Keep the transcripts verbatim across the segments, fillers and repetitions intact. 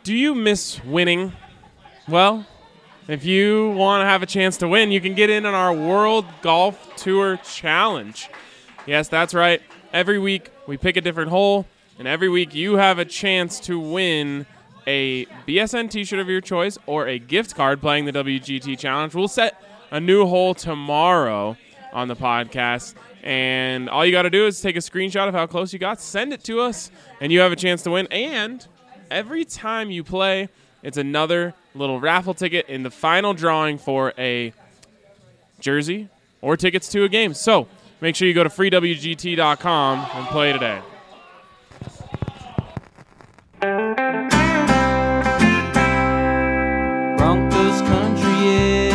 Do you miss winning? Well, if you want to have a chance to win, you can get in on our World Golf Tour Challenge. Yes, that's right. Every week we pick a different hole, and every week you have a chance to win a B S N t-shirt of your choice or a gift card playing the W G T Challenge. We'll set a new hole tomorrow on the podcast, and all you got to do is take a screenshot of how close you got, send it to us, and you have a chance to win. And every time you play, it's another little raffle ticket in the final drawing for a jersey or tickets to a game. So make sure you go to free W G T dot com and play today. Broncos country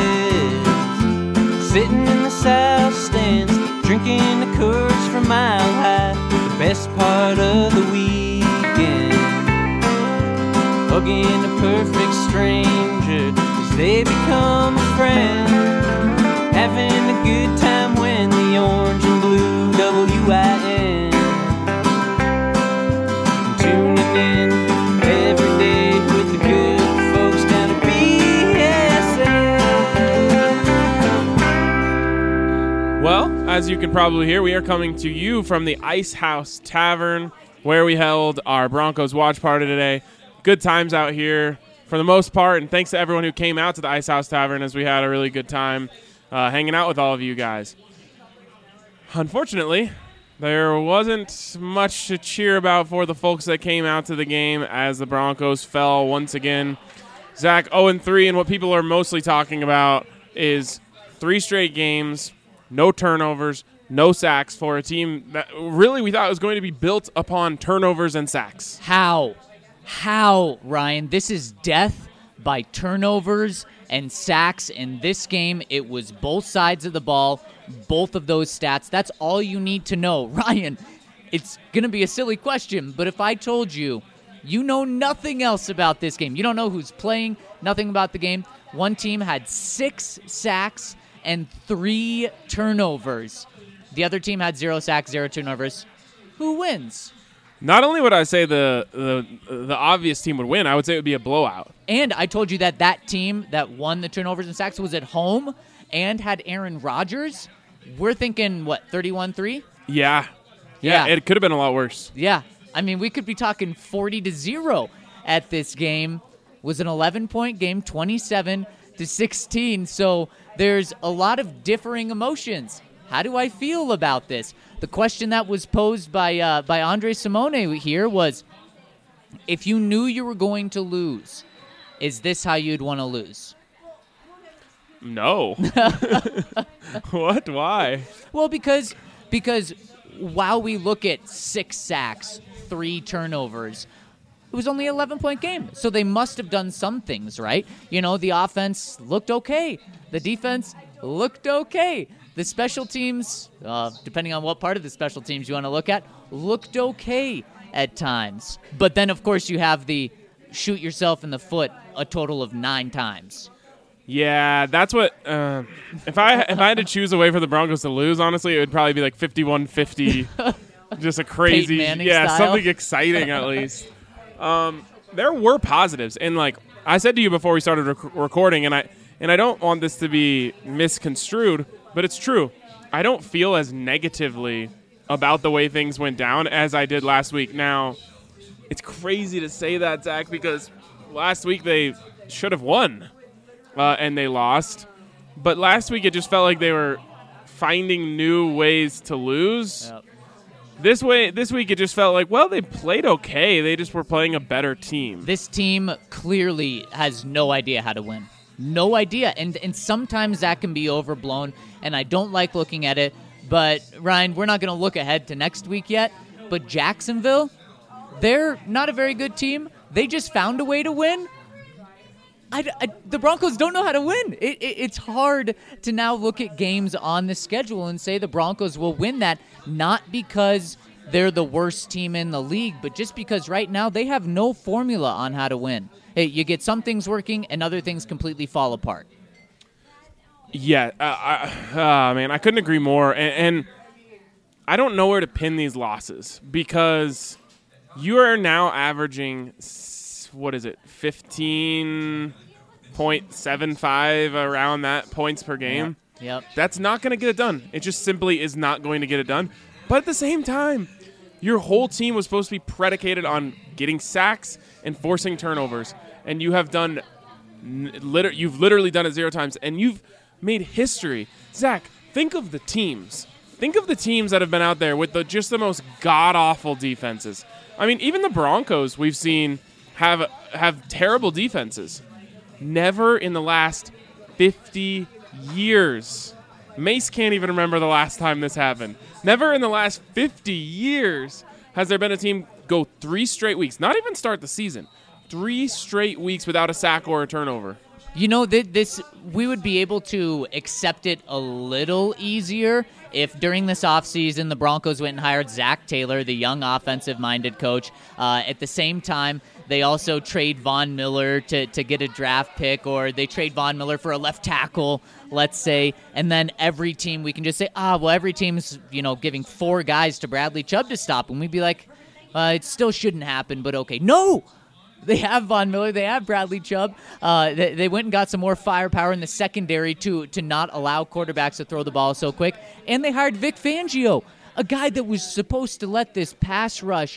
is sitting in the south stands, drinking the Coors from Mile High. The best part of the weekend, hugging a perfect stranger as they become a friend, having a good time when the orange and blue W I N, tuning in every day with the good folks down at B S N. Well, as you can probably hear, we are coming to you from the Ice House Tavern, where we held our Broncos watch party today. Good times out here for the most part, and thanks to everyone who came out to the Ice House Tavern, as we had a really good time uh, hanging out with all of you guys. Unfortunately, there wasn't much to cheer about for the folks that came out to the game, as the Broncos fell once again. Zach, oh and three, and what people are mostly talking about is three straight games, no turnovers, no sacks for a team that really we thought was going to be built upon turnovers and sacks. How? How, Ryan? This is death by turnovers and sacks. In this game, it was both sides of the ball, both of those stats. That's all you need to know. Ryan, it's going to be a silly question, but if I told you, you know nothing else about this game, you don't know who's playing, nothing about the game. One team had six sacks and three turnovers. The other team had zero sacks, zero turnovers. Who wins? Not only would I say the, the the obvious team would win, I would say it would be a blowout. And I told you that that team that won the turnovers and sacks was at home and had Aaron Rodgers. We're thinking, what, thirty-one three? Yeah. Yeah, Yeah. it could have been a lot worse. Yeah. I mean, we could be talking forty to zero at this game. It was an eleven-point game, twenty-seven to sixteen. So there's a lot of differing emotions. How do I feel about this? The question that was posed by uh, by Andre Simone here was, if you knew you were going to lose, is this how you'd want to lose? No. What? Why? Well, because because while we look at six sacks, three turnovers, it was only an eleven-point game. So they must have done some things, right? You know, the offense looked okay. The defense looked okay. The special teams, uh, depending on what part of the special teams you want to look at, looked okay at times. But then, of course, you have the shoot yourself in the foot a total of nine times. Yeah, that's what. Uh, if I if I had to choose a way for the Broncos to lose, honestly, it would probably be like fifty-one fifty, just a crazy, Peyton Manning yeah, style. something exciting at least. Um, there were positives, and like I said to you before we started rec- recording, and I and I don't want this to be misconstrued, but it's true. I don't feel as negatively about the way things went down as I did last week. Now, it's crazy to say that, Zach, because last week they should have won. Uh, and they lost. But last week it just felt like they were finding new ways to lose. Yep. This way, this week it just felt like, well, they played okay. They just were playing a better team. This team clearly has no idea how to win. No idea. And and sometimes that can be overblown, and I don't like looking at it. But, Ryan, we're not going to look ahead to next week yet. But Jacksonville, they're not a very good team. They just found a way to win. I, I, the Broncos don't know how to win. It, it, it's hard to now look at games on the schedule and say the Broncos will win that, not because they're the worst team in the league, but just because right now they have no formula on how to win. Hey, you get some things working and other things completely fall apart. Yeah, uh, I, uh, man, I couldn't agree more. And, and I don't know where to pin these losses because you are now averaging what is it, fifteen point seven five around that points per game. Yep. yep. That's not going to get it done. It just simply is not going to get it done. But at the same time, your whole team was supposed to be predicated on getting sacks and forcing turnovers, and you have done, liter- you've literally done it zero times, and you've made history. Zach, think of the teams. Think of the teams that have been out there with the just the most god-awful defenses. I mean, even the Broncos we've seen have have terrible defenses. Never in the last fifty years. Mace can't even remember the last time this happened. Never in the last fifty years has there been a team go three straight weeks, not even start the season, three straight weeks without a sack or a turnover. You know, th- this we would be able to accept it a little easier if during this offseason the Broncos went and hired Zach Taylor, the young offensive-minded coach. Uh, at the same time, they also trade Von Miller to, to get a draft pick, or they trade Von Miller for a left tackle, let's say, and then every team, we can just say, ah, well, every team's, you know, giving four guys to Bradley Chubb to stop him. We'd be like, uh, it still shouldn't happen, but okay. No! They have Von Miller. They have Bradley Chubb. Uh, they, they went and got some more firepower in the secondary to to not allow quarterbacks to throw the ball so quick. And they hired Vic Fangio, a guy that was supposed to let this pass rush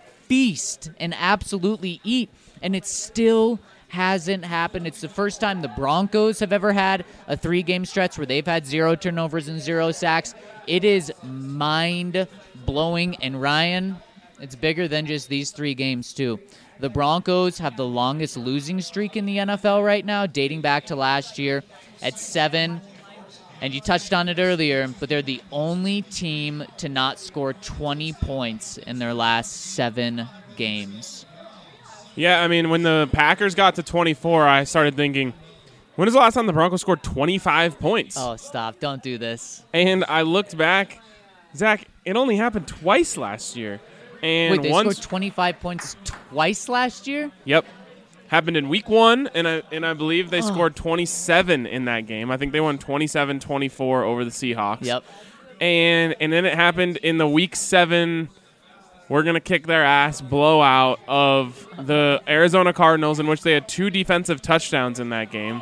feast and absolutely eat, and it still hasn't happened. It's the first time the Broncos have ever had a three-game stretch where they've had zero turnovers and zero sacks. It is mind-blowing, and Ryan, it's bigger than just these three games, too. The Broncos have the longest losing streak in the N F L right now, dating back to last year at seven. And you touched on it earlier, but they're the only team to not score twenty points in their last seven games. Yeah, I mean, when the Packers got to twenty-four, I started thinking, when was the last time the Broncos scored twenty-five points? Oh, stop. Don't do this. And I looked back. Zach, it only happened twice last year. And Wait, they once, scored twenty-five points twice last year? Yep. Happened in week one, and I, and I believe they Oh. scored twenty-seven in that game. I think they won twenty-seven twenty-four over the Seahawks. Yep. And and then it happened in the week seven, we're going to kick their ass blowout of the Arizona Cardinals, in which they had two defensive touchdowns in that game.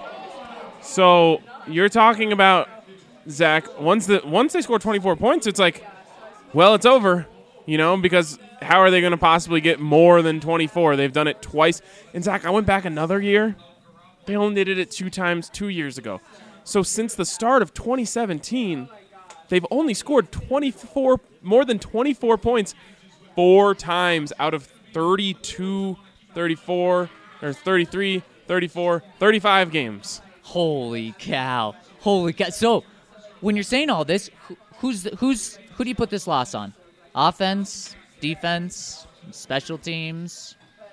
So you're talking about, Zach, once the once they score twenty-four points, it's like, well, it's over. You know, because how are they going to possibly get more than twenty-four? They've done it twice. And, Zach, I went back another year. They only did it two times two years ago. So since the start of twenty seventeen, they've only scored twenty-four, more than twenty-four points four times out of thirty-two, thirty-four, or thirty-three, thirty-four, thirty-five games. Holy cow. Holy cow. So, when you're saying all this, who- who's the, who's who do you put this loss on? Offense, defense, special teams?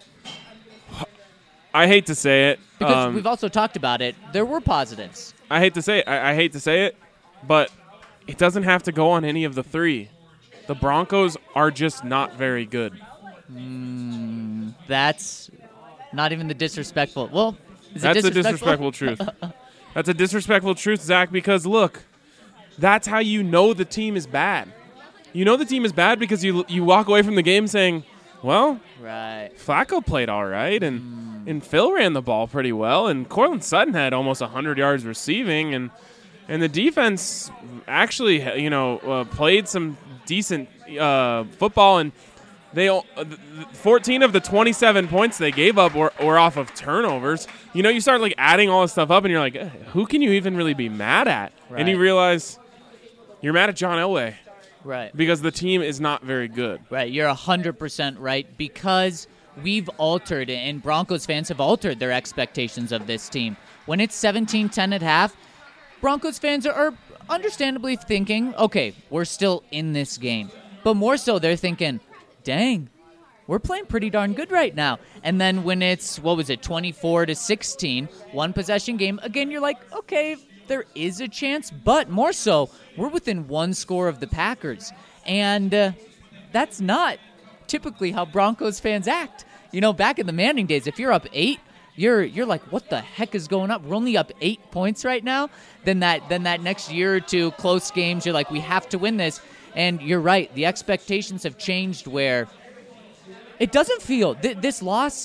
I hate to say it. Because um, we've also talked about it. There were positives. I hate to say it. I, I hate to say it, but it doesn't have to go on any of the three. The Broncos are just not very good. Mm, that's not even the disrespectful. Well, is That's it a disrespectful? disrespectful truth. That's a disrespectful truth, Zach, because look, that's how you know the team is bad. You know the team is bad because you you walk away from the game saying, well, Right. Flacco played all right, and, and Phil ran the ball pretty well, and Cortland Sutton had almost one hundred yards receiving, and and the defense actually, you know, uh, played some decent uh, football, and they uh, fourteen of the twenty-seven points they gave up were, were off of turnovers. You know, you start like adding all this stuff up, and you're like, eh, who can you even really be mad at? And you Right. realize you're mad at John Elway Right. because the team is not very good. Right. You're one hundred percent right, because we've altered, and Broncos fans have altered their expectations of this team. When it's seventeen ten at half, Broncos fans are, are understandably thinking, okay, we're still in this game. But more so, they're thinking, dang, we're playing pretty darn good right now. And then when it's, what was it, twenty-four to sixteen, one possession game, again, you're like, okay, there is a chance, but more so, we're within one score of the Packers. And uh, that's not typically how Broncos fans act. You know, back in the Manning days, if you're up eight, you're you're like, what the heck is going on? We're only up eight points right now. Then that then that next year or two, close games, you're like, we have to win this. And you're right, the expectations have changed where it doesn't feel, th- this loss,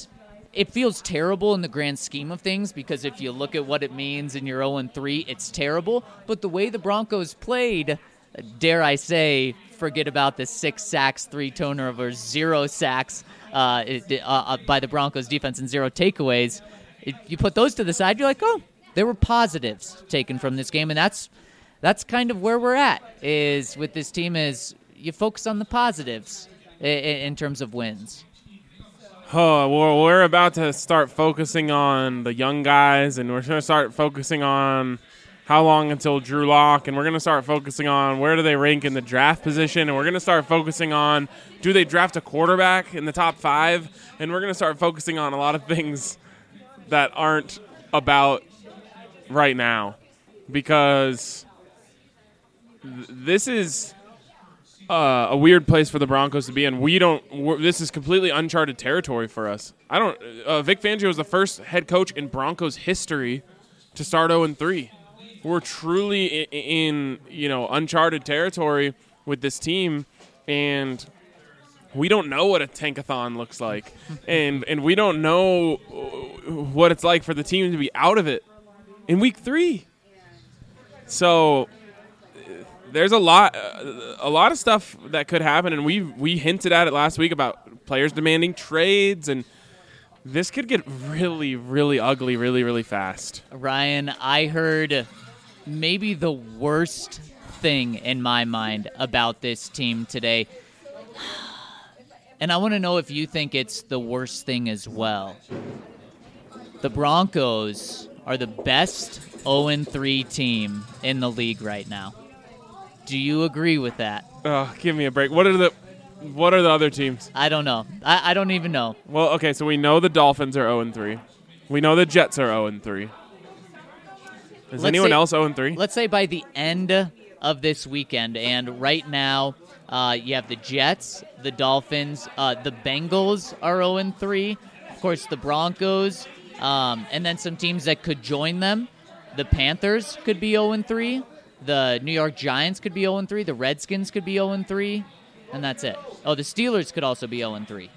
it feels terrible in the grand scheme of things because if you look at what it means and you're oh and three, it's terrible. But the way the Broncos played, dare I say, forget about the six sacks, three turnovers, zero sacks uh, it, uh, by the Broncos defense and zero takeaways. If you put those to the side, you're like, oh, there were positives taken from this game, and that's that's kind of where we're at. Is with this team is you focus on the positives in, in terms of wins. Oh, well, we're about to start focusing on the young guys, and we're going to start focusing on how long until Drew Lock, and we're going to start focusing on where do they rank in the draft position, and we're going to start focusing on do they draft a quarterback in the top five, and we're going to start focusing on a lot of things that aren't about right now because th- this is uh, a weird place for the Broncos to be in. We don't. We're, this is completely uncharted territory for us. I don't. Uh, Vic Fangio is the first head coach in Broncos history to start oh and three. We're truly in, in you know uncharted territory with this team, and we don't know what a tankathon looks like, and and we don't know what it's like for the team to be out of it in week three. So there's a lot, uh, a lot of stuff that could happen, and we we hinted at it last week about players demanding trades, and this could get really, really ugly, really, really fast. Ryan, I heard maybe the worst thing in my mind about this team today. And I want to know if you think it's the worst thing as well. The Broncos are the best oh and three team in the league right now. Do you agree with that? Oh, give me a break. What are the what are the other teams? I don't know. I, I don't even know. Well, okay, so we know the Dolphins are oh and three. We know the Jets are oh and three. Is Let's anyone say, else oh and three? Let's say by the end of this weekend, and right now uh, you have the Jets, the Dolphins, uh, the Bengals are oh and three. Of course, the Broncos, um, and then some teams that could join them. The Panthers could be oh and three. The New York Giants could be oh and three. The Redskins could be oh and three. And that's it. Oh, the Steelers could also be oh and three.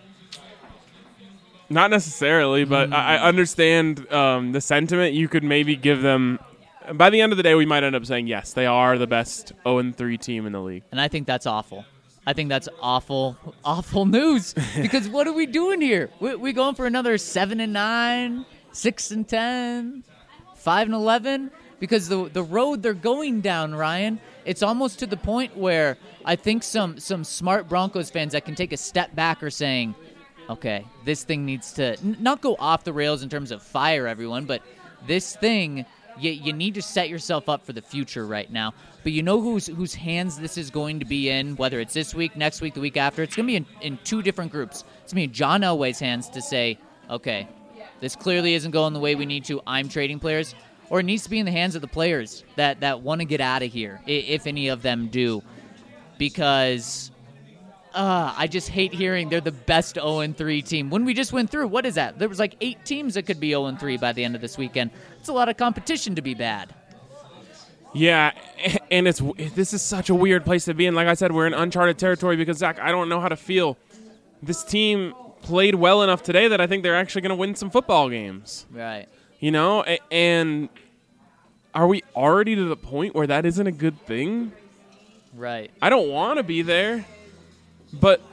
Not necessarily, but mm. I, I understand um, the sentiment. You could maybe give them. By the end of the day, we might end up saying, yes, they are the best oh and three team in the league. And I think that's awful. I think that's awful, awful news. Because what are we doing here? We, we going for another seven and nine, six and ten, five and eleven? Because the the road they're going down, Ryan, it's almost to the point where I think some some smart Broncos fans that can take a step back are saying, okay, this thing needs to n- not go off the rails in terms of fire everyone, but this thing, you, you need to set yourself up for the future right now. But you know whose whose hands this is going to be in, whether it's this week, next week, the week after? It's going to be in, in two different groups. It's going to be in John Elway's hands to say, okay, this clearly isn't going the way we need to. I'm trading players. Or it needs to be in the hands of the players that, that want to get out of here, if any of them do. Because uh, I just hate hearing they're the best oh and three team. When we just went through, what is that? There was like eight teams that could be oh and three by the end of this weekend. It's a lot of competition to be bad. Yeah, and it's this is such a weird place to be in. Like I said, we're in uncharted territory because, Zach, I don't know how to feel. This team played well enough today that I think they're actually going to win some football games. Right. You know, and are we already to the point where that isn't a good thing? Right. I don't want to be there, but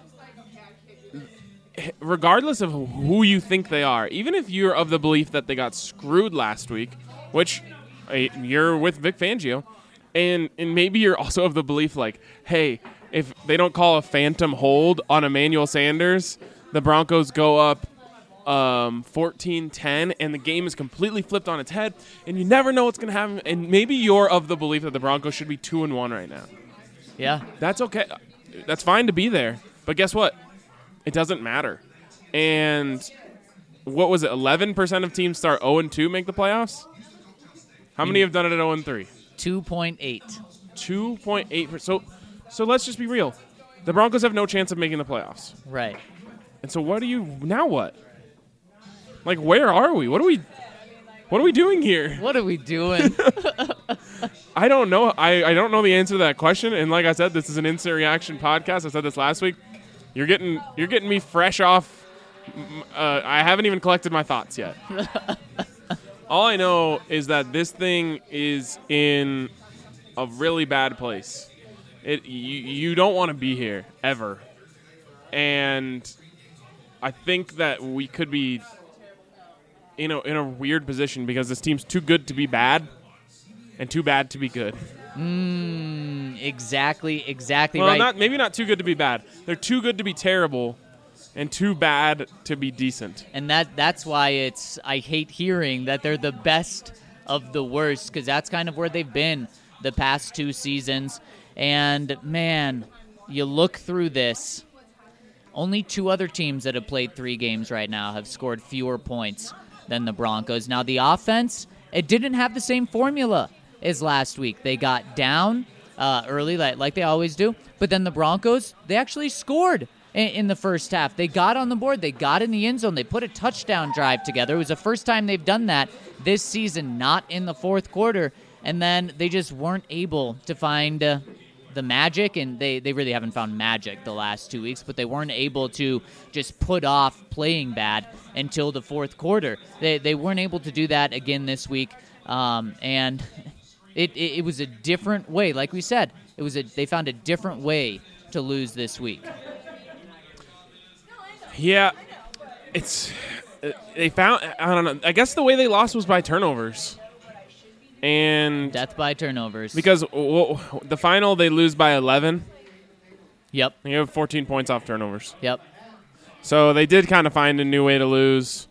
regardless of who you think they are, even if you're of the belief that they got screwed last week, which you're with Vic Fangio, and, and maybe you're also of the belief like, hey, if they don't call a phantom hold on Emmanuel Sanders, the Broncos go up Um, fourteen ten, and the game is completely flipped on its head, and you never know what's going to happen. And maybe you're of the belief that the Broncos should be two and one right now. Yeah, that's okay. That's fine to be there, but guess what? It doesn't matter. And what was it? Eleven percent of teams start zero and two make the playoffs. How many have done it at zero and three? Two point eight. Two point eight. So, so let's just be real. The Broncos have no chance of making the playoffs. Right. And so, what do you now? What? Like, where are we? What are we What are we doing here? What are we doing? I don't know. I, I don't know the answer to that question. And like I said, this is an instant reaction podcast. I said this last week. You're getting you're getting me fresh off Uh, I haven't even collected my thoughts yet. All I know is that this thing is in a really bad place. It you, you don't want to be here ever, and I think that we could be in a in a weird position because this team's too good to be bad, and too bad to be good. Mm, exactly, exactly well, right. not maybe not too good to be bad. They're too good to be terrible, and too bad to be decent. And that that's why it's I hate hearing that they're the best of the worst, because that's kind of where they've been the past two seasons. And, man, you look through this, only two other teams that have played three games right now have scored fewer points than the Broncos. Now, the offense, it didn't have the same formula as last week. They got down uh, early, like, like they always do, but then the Broncos, they actually scored in, in the first half. They got on the board. They got in the end zone. They put a touchdown drive together. It was the first time they've done that this season, not in the fourth quarter. And then they just weren't able to find uh, the magic, and they, they really haven't found magic the last two weeks, but they weren't able to just put off playing bad until the fourth quarter. They they weren't able to do that again this week, um, and it, it it was a different way. Like we said, it was a they found a different way to lose this week. Yeah, it's they found. I don't know. I guess the way they lost was by turnovers. And Death by turnovers. Because w- w- the final, they lose by eleven. Yep. You have fourteen points off turnovers. Yep. So they did kind of find a new way to lose.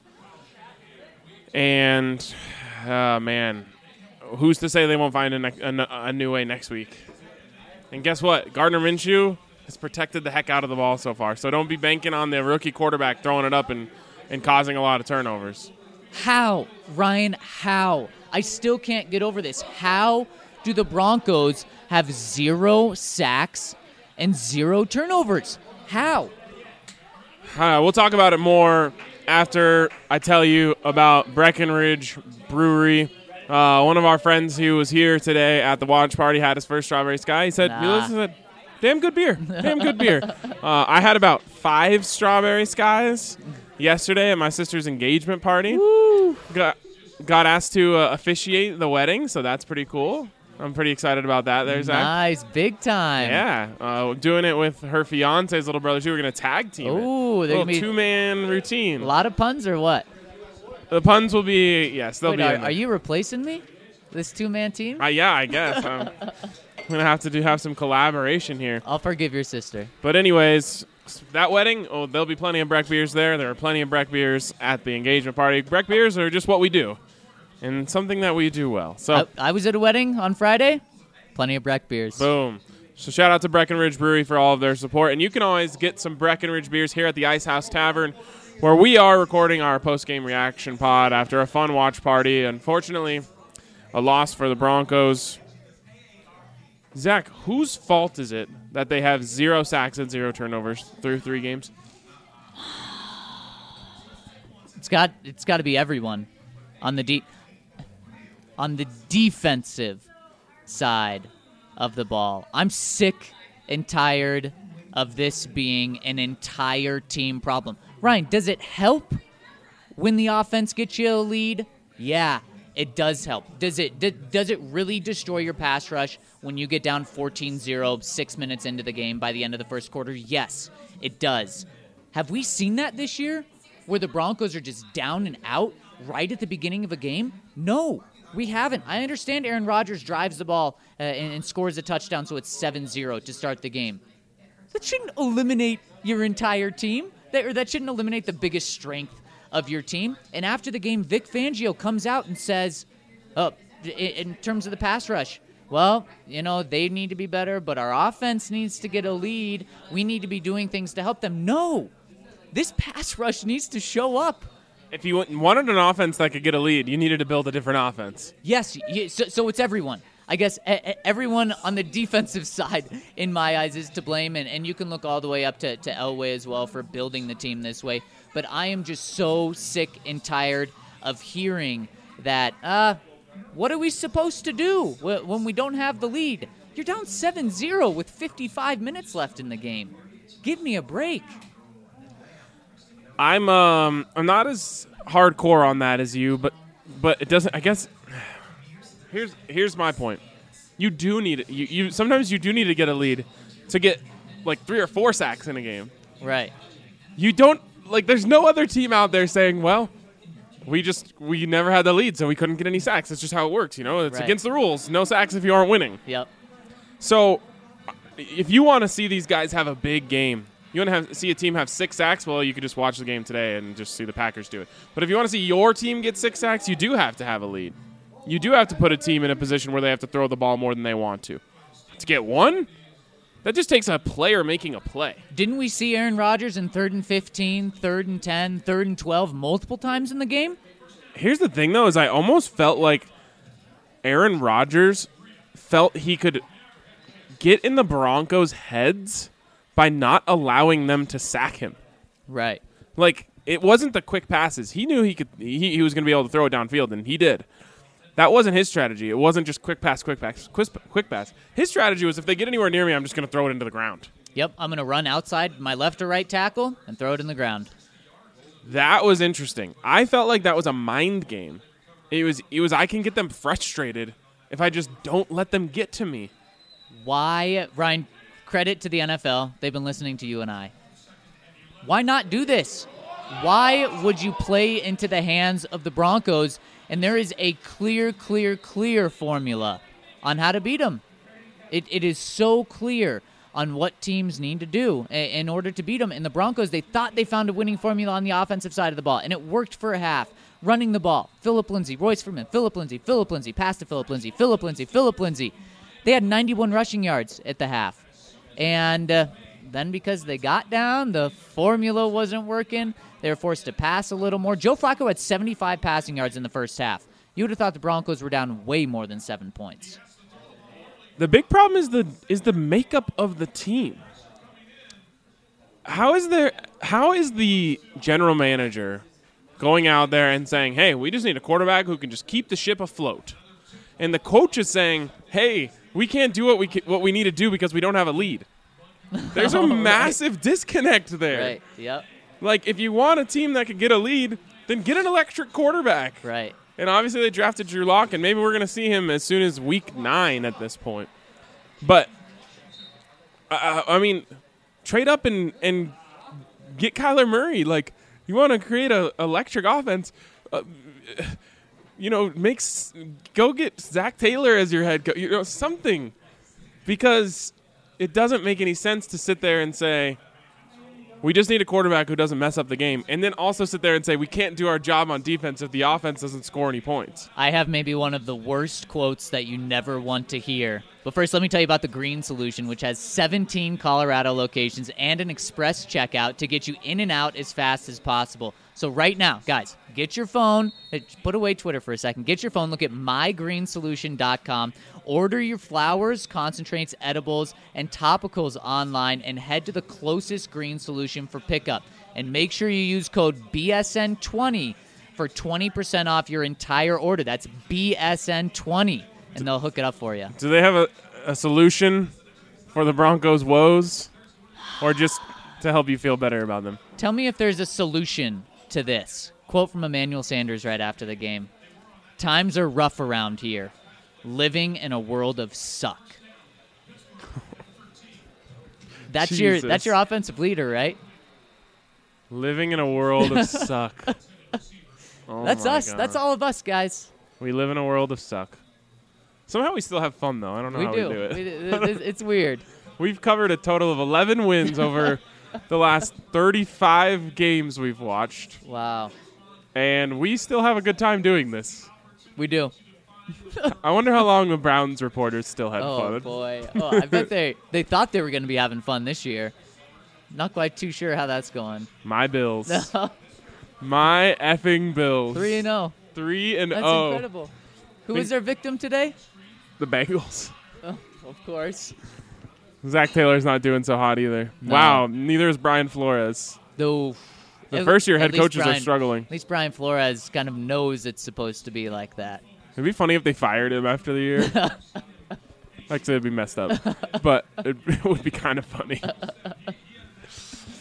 And, uh, man, who's to say they won't find a, ne- a, a new way next week? And guess what? Gardner Minshew has protected the heck out of the ball so far. So don't be banking on the rookie quarterback throwing it up and, and causing a lot of turnovers. How? Ryan, how? I still can't get over this. How do the Broncos have zero sacks and zero turnovers? How? Uh, we'll talk about it more after I tell you about Breckenridge Brewery. Uh, one of our friends who was here today at the watch party had his first Strawberry Sky. He said, Nah. "This is a damn good beer. Damn good beer." Uh, I had about five Strawberry Skies yesterday at my sister's engagement party. Woo. Got got asked to uh, officiate the wedding, so that's pretty cool. I'm pretty excited about that. There's that. Nice, big time. Yeah, uh, doing it with her fiance's little brother too. We're gonna tag team it. Ooh, they're little gonna be two man routine. a lot of puns or what? The puns will be yes, they'll Wait, be. are, in there. are you replacing me? This two-man team? Uh, yeah, I guess. I'm gonna have to do have some collaboration here. I'll forgive your sister. But anyways, that wedding, oh, there'll be plenty of Breck beers there. There are plenty of Breck beers at the engagement party. Breck beers are just what we do, and something that we do well. So, I, I was at a wedding on Friday. Plenty of Breck beers. boom. So shout out to Breckenridge Brewery for all of their support. And you can always get some Breckenridge beers here at the Ice House Tavern, where we are recording our post-game reaction pod after a fun watch party. Unfortunately, a loss for the Broncos. Zach, whose fault is it that they have zero sacks and zero turnovers through three games? It's got it's got to be everyone on the de- on the defensive side of the ball. I'm sick and tired of this being an entire team problem. Ryan, does it help when the offense gets you a lead? Yeah, it does help. Does it d- does it really destroy your pass rush when you get down fourteen zero six minutes into the game by the end of the first quarter? Yes, it does. Have we seen that this year where the Broncos are just down and out right at the beginning of a game? No, we haven't. I understand Aaron Rodgers drives the ball uh, and, and scores a touchdown, so it's seven zero to start the game. That shouldn't eliminate your entire team. That, or that shouldn't eliminate the biggest strength of your team. And after the game, Vic Fangio comes out and says, oh, in terms of the pass rush, well, you know, they need to be better, but our offense needs to get a lead. We need to be doing things to help them. No, this pass rush needs to show up. If you wanted an offense that could get a lead, you needed to build a different offense. Yes, so, so it's everyone. I guess everyone on the defensive side, in my eyes, is to blame, and, and you can look all the way up to, to Elway as well for building the team this way. But I am just so sick and tired of hearing that, uh, what are we supposed to do when we don't have the lead? You're down seven zero with fifty-five minutes left in the game. Give me a break. I'm um I'm not as hardcore on that as you, but but it doesn't. I guess here's here's my point. You do need you you sometimes you do need to get a lead to get like three or four sacks in a game. Right. You don't like. There's no other team out there saying, well, we just we never had the lead, so we couldn't get any sacks. That's just how it works. You know, it's Right. against the rules. No sacks if you aren't winning. Yep. So if you want to see these guys have a big game. You want to have see a team have six sacks? Well, you could just watch the game today and just see the Packers do it. But if you want to see your team get six sacks, you do have to have a lead. You do have to put a team in a position where they have to throw the ball more than they want to. To get one, that just takes a player making a play. Didn't we see Aaron Rodgers in third and fifteen, third and ten, third and twelve multiple times in the game? Here's the thing, though, is I almost felt like Aaron Rodgers felt he could get in the Broncos' heads by not allowing them to sack him. Right. Like, it wasn't the quick passes. He knew he could. He, he was going to be able to throw it downfield, and he did. That wasn't his strategy. It wasn't just quick pass, quick pass, quick, quick pass. His strategy was if they get anywhere near me, I'm just going to throw it into the ground. Yep, I'm going to run outside my left or right tackle and throw it in the ground. That was interesting. I felt like that was a mind game. It was. It was. I can get them frustrated if I just don't let them get to me. Why, Ryan, credit to the N F L. They've been listening to you and I. Why not do this? Why would you play into the hands of the Broncos? And there is a clear, clear, clear formula on how to beat them. It, it is so clear on what teams need to do in order to beat them. And the Broncos, they thought they found a winning formula on the offensive side of the ball, and it worked for a half. Running the ball, Phillip Lindsay, Royce Freeman, Phillip Lindsay, Phillip Lindsay, pass to Phillip Lindsay, Phillip Lindsay, Phillip Lindsay. They had ninety-one rushing yards at the half. And uh, then because they got down, the formula wasn't working. They were forced to pass a little more. Joe Flacco had seventy-five passing yards in the first half. You would have thought the Broncos were down way more than seven points. The big problem is the is the makeup of the team. How is there? How is the general manager going out there and saying, "Hey, we just need a quarterback who can just keep the ship afloat," and the coach is saying, "Hey, we can't do what we ca- what we need to do because we don't have a lead." There's a Oh, massive right. disconnect there. Right, yep, Like, if you want a team that can get a lead, then get an electric quarterback. right. And obviously they drafted Drew Lock, and maybe we're going to see him as soon as week nine at this point. But, uh, I mean, trade up and, and get Kyler Murray. Like, you want to create an electric offense, uh, you know, makes go get Zach Taylor as your head coach, you know, something. Because it doesn't make any sense to sit there and say, we just need a quarterback who doesn't mess up the game, and then also sit there and say we can't do our job on defense if the offense doesn't score any points. I have maybe one of the worst quotes that you never want to hear. But first, let me tell you about the Green Solution, which has seventeen Colorado locations and an express checkout to get you in and out as fast as possible. So right now, guys, get your phone, put away Twitter for a second, get your phone, look at my green solution dot com, order your flowers, concentrates, edibles, and topicals online, and head to the closest Green Solution for pickup. And make sure you use code B S N twenty for twenty percent off your entire order. That's B S N twenty, and they'll hook it up for you. Do they have a, a solution for the Broncos' woes, or just to help you feel better about them? Tell me if there's a solution to this. Quote from Emmanuel Sanders right after the game. Times are rough around here. Living in a world of suck. That's your Jesus. that's your offensive leader, right? Living in a world of suck. Oh That's my us. God. That's all of us, guys. We live in a world of suck. Somehow we still have fun, though. I don't know We how do. we do it. We do. It's- It's weird. We've covered a total of eleven wins over the last thirty-five games we've watched, Wow. and we still have a good time doing this. We do. I wonder how long the Browns reporters still had Oh fun. boy. Oh, I bet they they thought they were going to be having fun this year. Not quite too sure how that's going. My Bills. My effing Bills. Three and zero. Three and That's oh. incredible. Who Think- was their victim today? The Bengals. Oh, of course. Zach Taylor's not doing so hot either. No. Wow, neither is Brian Flores. Though. The at- first-year at head least coaches are Brian- struggling. At least Brian Flores kind of knows it's supposed to be like that. It'd be funny if they fired him after the year. Actually, it'd be messed up. But it, it would be kind of funny.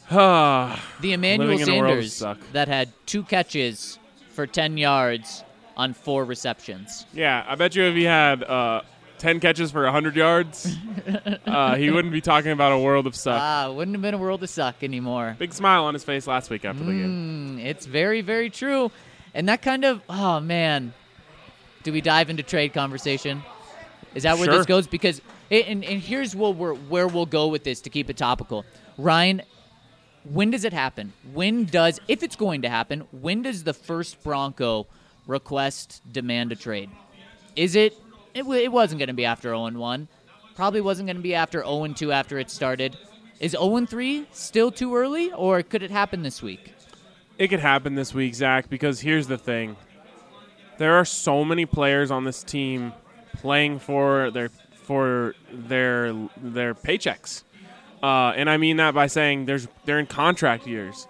The Emmanuel Living in a world of Sanders suck. that had two catches for ten yards on four receptions. Yeah, I bet you if he had uh, ten catches for one hundred yards, uh, he wouldn't be talking about a world of suck. Ah, wouldn't have been a world of suck anymore. Big smile on his face last week after the game. Mm, it's very, very true. And that kind of, oh, man. Do we dive into trade conversation? Is that where Sure. this goes? Because, it, and, and here's where, we're, where we'll go with this to keep it topical. Ryan, when does it happen? When does, if it's going to happen, when does the first Bronco request, demand a trade? Is it, it, w- it wasn't going to be after oh and one. Probably wasn't going to be after oh and two after it started. Is oh and three still too early, or could it happen this week? It could happen this week, Zach, because here's the thing. There are so many players on this team playing for their for their their paychecks. Uh, and I mean that by saying there's they're in contract years.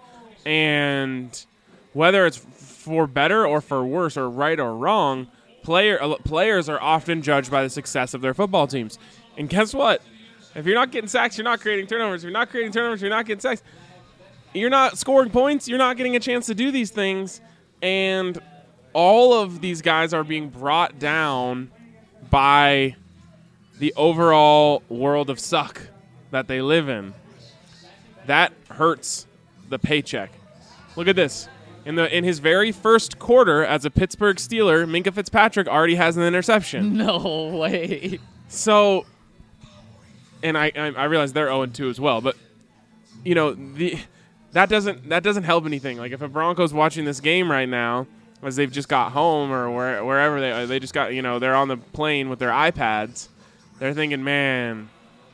And whether it's for better or for worse or right or wrong, player uh, players are often judged by the success of their football teams. And guess what? If you're not getting sacks, you're not creating turnovers. If you're not creating turnovers, you're not getting sacks. You're not scoring points. You're not getting a chance to do these things. And all of these guys are being brought down by the overall world of suck that they live in. That hurts the paycheck. Look at this. In the in his very first quarter as a Pittsburgh Steeler, Minkah Fitzpatrick already has an interception. No way. So, and I I, I realize they're oh and two as well, but you know the that doesn't that doesn't help anything. Like if a Broncos watching this game right now, as they've just got home or where, wherever they they just got you know they're on the plane with their iPads, they're thinking, man,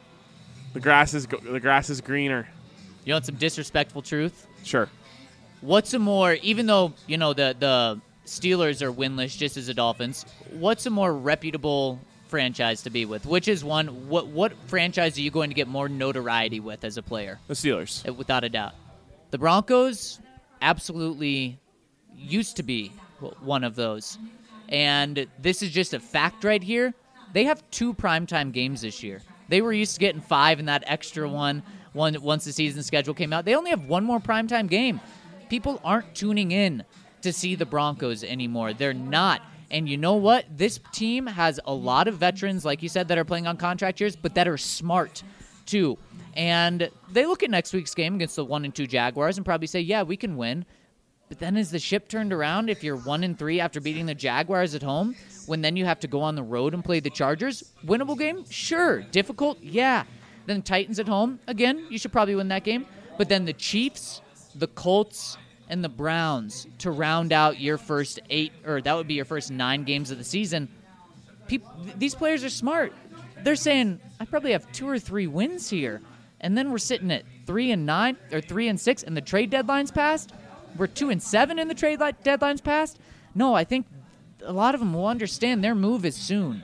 the grass is go- the grass is greener. You want some disrespectful truth? Sure. What's a more, even though, you know, the, the Steelers are winless just as the Dolphins, what's a more reputable franchise to be with? Which is one, what what franchise are you going to get more notoriety with as a player? The Steelers. Uh, Without a doubt. The Broncos absolutely used to be one of those. And this is just a fact right here. They have two primetime games this year. They were used to getting five in that extra one, one once the season schedule came out. They only have one more primetime game. People aren't tuning in to see the Broncos anymore. They're not. And you know what? This team has a lot of veterans, like you said, that are playing on contract years, but that are smart, too. And they look at next week's game against the one and two Jaguars and probably say, yeah, we can win. But then is the ship turned around if you're one and three after beating the Jaguars at home, when then you have to go on the road and play the Chargers? Winnable game? Sure. Difficult? Yeah. Then Titans at home? Again, you should probably win that game. But then the Chiefs, the Colts, and the Browns to round out your first eight, or that would be your first nine games of the season. People, these players are smart. They're saying, I probably have two or three wins here. And then we're sitting at three and nine, or three and six, and the trade deadline's passed. We're two and seven in the trade li- deadline's passed. No, I think a lot of them will understand their move is soon.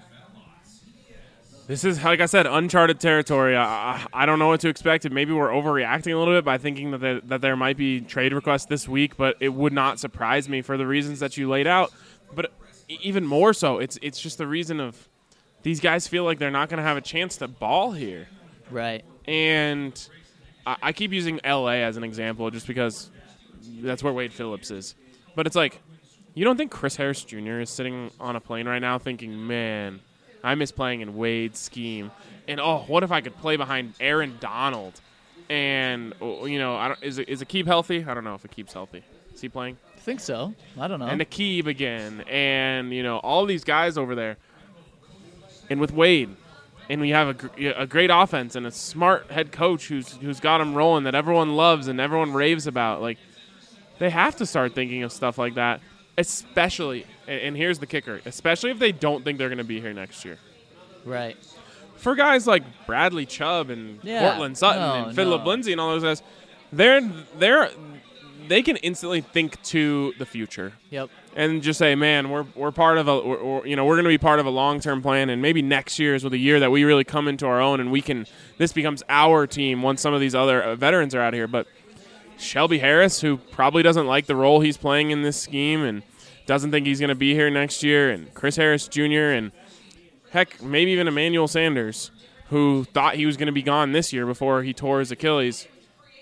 This is, like I said, uncharted territory. I, I don't know what to expect. Maybe we're overreacting a little bit by thinking that there, that there might be trade requests this week, but it would not surprise me for the reasons that you laid out. But even more so, it's it's just the reason of these guys feel like they're not going to have a chance to ball here. Right. And I, I keep using L A as an example just because that's where Wade Phillips is. But it's like, you don't think Chris Harris Junior is sitting on a plane right now thinking, man, I miss playing in Wade's scheme. And, oh, what if I could play behind Aaron Donald? And, you know, I don't, is, is Aqib healthy? I don't know if Aqib's healthy. Is he playing? I think so. I don't know. And Aqib again. And, you know, all these guys over there. And with Wade. And we have a, gr- a great offense and a smart head coach who's who's got them rolling that everyone loves and everyone raves about. Like, they have to start thinking of stuff like that. Especially, and here's the kicker, especially if they don't think they're going to be here next year. Right. For guys like Bradley Chubb and Yeah, Cortland Sutton no, and Phillip no. Lindsay and all those guys, they're they're they can instantly think to the future Yep. and just say, man, we're we're part of a, or, or, you know, we're going to be part of a long-term plan, and maybe next year is with a year that we really come into our own, and we can. This becomes our team once some of these other uh, veterans are out here, but. Shelby Harris, who probably doesn't like the role he's playing in this scheme and doesn't think he's going to be here next year, and Chris Harris Junior, and heck, maybe even Emmanuel Sanders, who thought he was going to be gone this year before he tore his Achilles.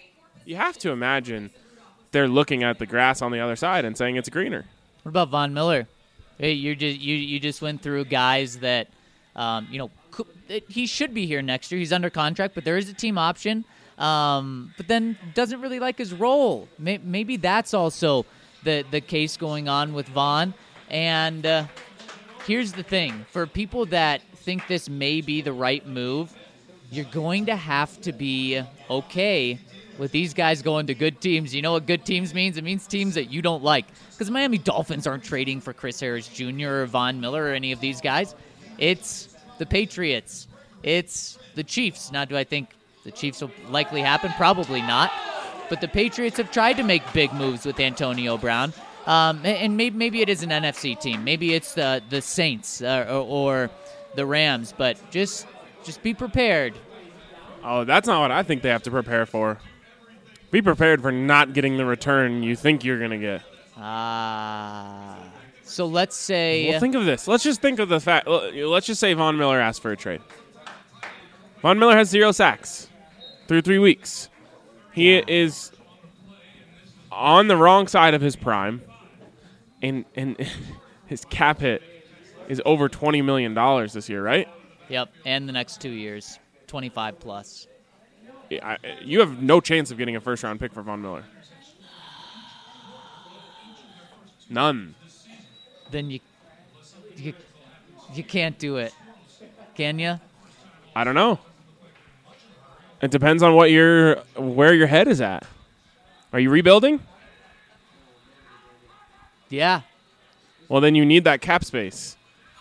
you have to imagine they're looking at the grass on the other side and saying it's greener. What about Von Miller? Hey, you just you you just went through guys that, um, you know, he should be here next year. He's under contract, but there is a team option. Um, but then doesn't really like his role. Maybe that's also the the case going on with Von. And uh, here's the thing: for people that think this may be the right move, you're going to have to be okay with these guys going to good teams. You know what good teams means? It means teams that you don't like. Because the Miami Dolphins aren't trading for Chris Harris Junior or Von Miller or any of these guys. It's the Patriots. It's the Chiefs. Now, do I think the Chiefs will likely happen? Probably not. But the Patriots have tried to make big moves with Antonio Brown. Um, and maybe, maybe it is an N F C team. Maybe it's the, the Saints uh, or, or the Rams. But just just be prepared. Oh, that's not what I think they have to prepare for. Be prepared for not getting the return you think you're going to get. Ah. Uh, so let's say... Well, think of this. Let's just think of the fact... Let's just say Von Miller asked for a trade. Von Miller has zero sacks through three weeks. He yeah. is on the wrong side of his prime, and and his cap hit is over twenty million dollars this year, right? Yep, and the next two years, twenty-five plus. I, you have no chance of getting a first-round pick for Von Miller. None. Then you, you, you can't do it, can you? I don't know. It depends on what your where your head is at. Are you rebuilding? Yeah. Well, then you need that cap space.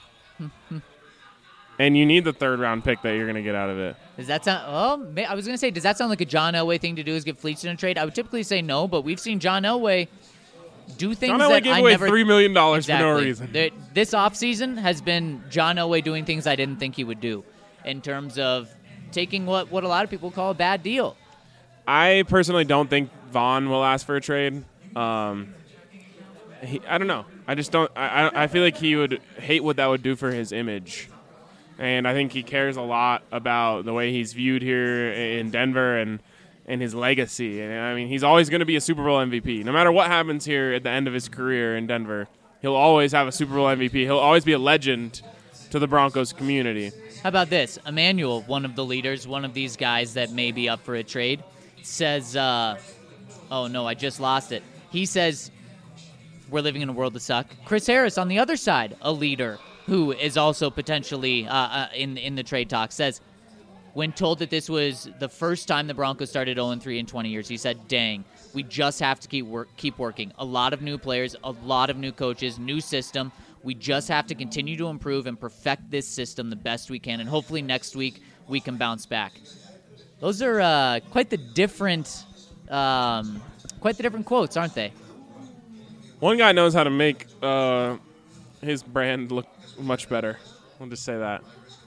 And you need the third-round pick that you're going to get out of it. Does that sound... Oh, I was going to say, does that sound like a John Elway thing to do, is give Fleets in a trade? I would typically say no, but we've seen John Elway do things John Elway that gave I away never... three million dollars exactly. for no reason. There, this offseason has been John Elway doing things I didn't think he would do in terms of taking what, what a lot of people call a bad deal. I personally don't think Von will ask for a trade. Um, he, I don't know. I just don't... I, I feel like he would hate what that would do for his image. And I think he cares a lot about the way he's viewed here in Denver and, and his legacy. And I mean, he's always going to be a Super Bowl M V P. No matter what happens here at the end of his career in Denver, he'll always have a Super Bowl M V P. He'll always be a legend to the Broncos community. How about this? Emmanuel, one of the leaders, one of these guys that may be up for a trade, says, uh, oh, no, I just lost it. He says, we're living in a world of suck. Chris Harris, on the other side, a leader, who is also potentially uh, uh, in in the trade talk, says, when told that this was the first time the Broncos started oh and three in twenty years, he said, dang, we just have to keep work, keep working. A lot of new players, a lot of new coaches, new system. We just have to continue to improve and perfect this system the best we can, and hopefully next week we can bounce back. Those are uh, quite the different, um, quite the different quotes, aren't they? One guy knows how to make uh, his brand look much better. I'll just say that.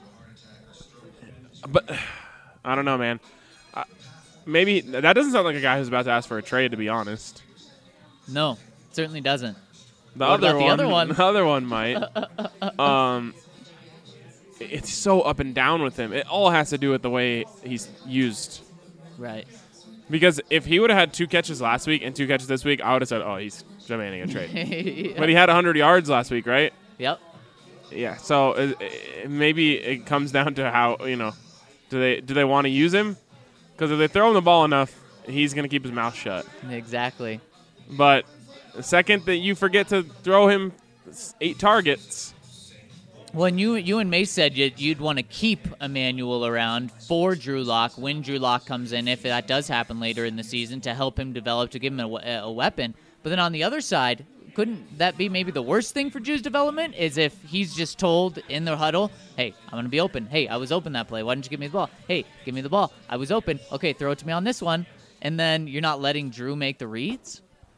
But I don't know, man. Uh, maybe that doesn't sound like a guy who's about to ask for a trade, to be honest. No, certainly doesn't. The what other about one, the other one? The other one might. um, it's so up and down with him. It all has to do with the way he's used. Right. Because if he would have had two catches last week and two catches this week, I would have said, oh, he's demanding a trade. Yeah. But he had one hundred yards last week, right? Yep. Yeah, so uh, maybe it comes down to how, you know, do they do they want to use him? Because if they throw him the ball enough, he's going to keep his mouth shut. Exactly. But the second that you forget to throw him eight targets. Well, and you, you and Mace said you'd, you'd want to keep Emmanuel around for Drew Lock when Drew Lock comes in, if that does happen later in the season, to help him develop, to give him a, a weapon. But then on the other side, couldn't that be maybe the worst thing for Drew's development, is if he's just told in the huddle, hey, I'm going to be open. Hey, I was open that play. Why didn't you give me the ball? Hey, give me the ball. I was open. Okay, throw it to me on this one. And then you're not letting Drew make the reads?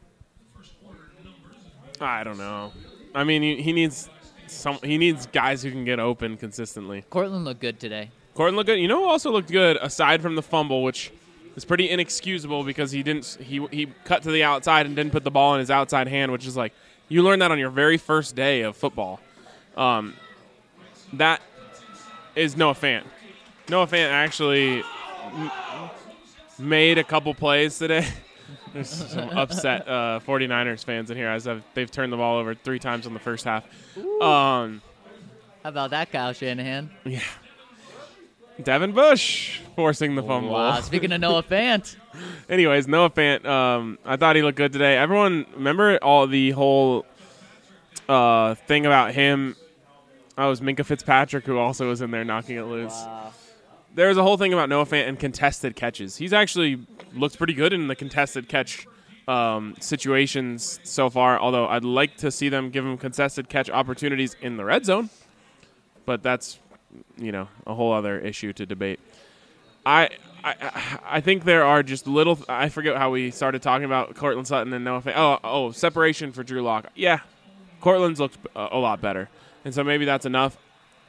I don't know. I mean, he, he needs some. He needs guys who can get open consistently. Cortland looked good today. Cortland looked good. You know who also looked good, aside from the fumble, which is pretty inexcusable because he didn't. He he cut to the outside and didn't put the ball in his outside hand, which is like, you learn that on your very first day of football. Um, that is Noah Fant. Noah Fant actually made a couple plays today. There's some upset uh, 49ers fans in here as I've, they've turned the ball over three times in the first half. Um, How about that, Kyle Shanahan? yeah. Devin Bush forcing the fumble. Wow, speaking of Noah Fant. Anyways, Noah Fant, um, I thought he looked good today. Everyone, remember all the whole uh, thing about him? Oh, it was Minka Fitzpatrick who also was in there knocking it loose. Wow. There was a whole thing about Noah Fant and contested catches. He's actually looked pretty good in the contested catch um, situations so far, although I'd like to see them give him contested catch opportunities in the red zone. But that's, you know, a whole other issue to debate. I I I think there are just little – I forget how we started talking about Cortland Sutton and Noah Fant. Oh, oh, separation for Drew Lock. Yeah, Cortland's looked a, a lot better. And so maybe that's enough.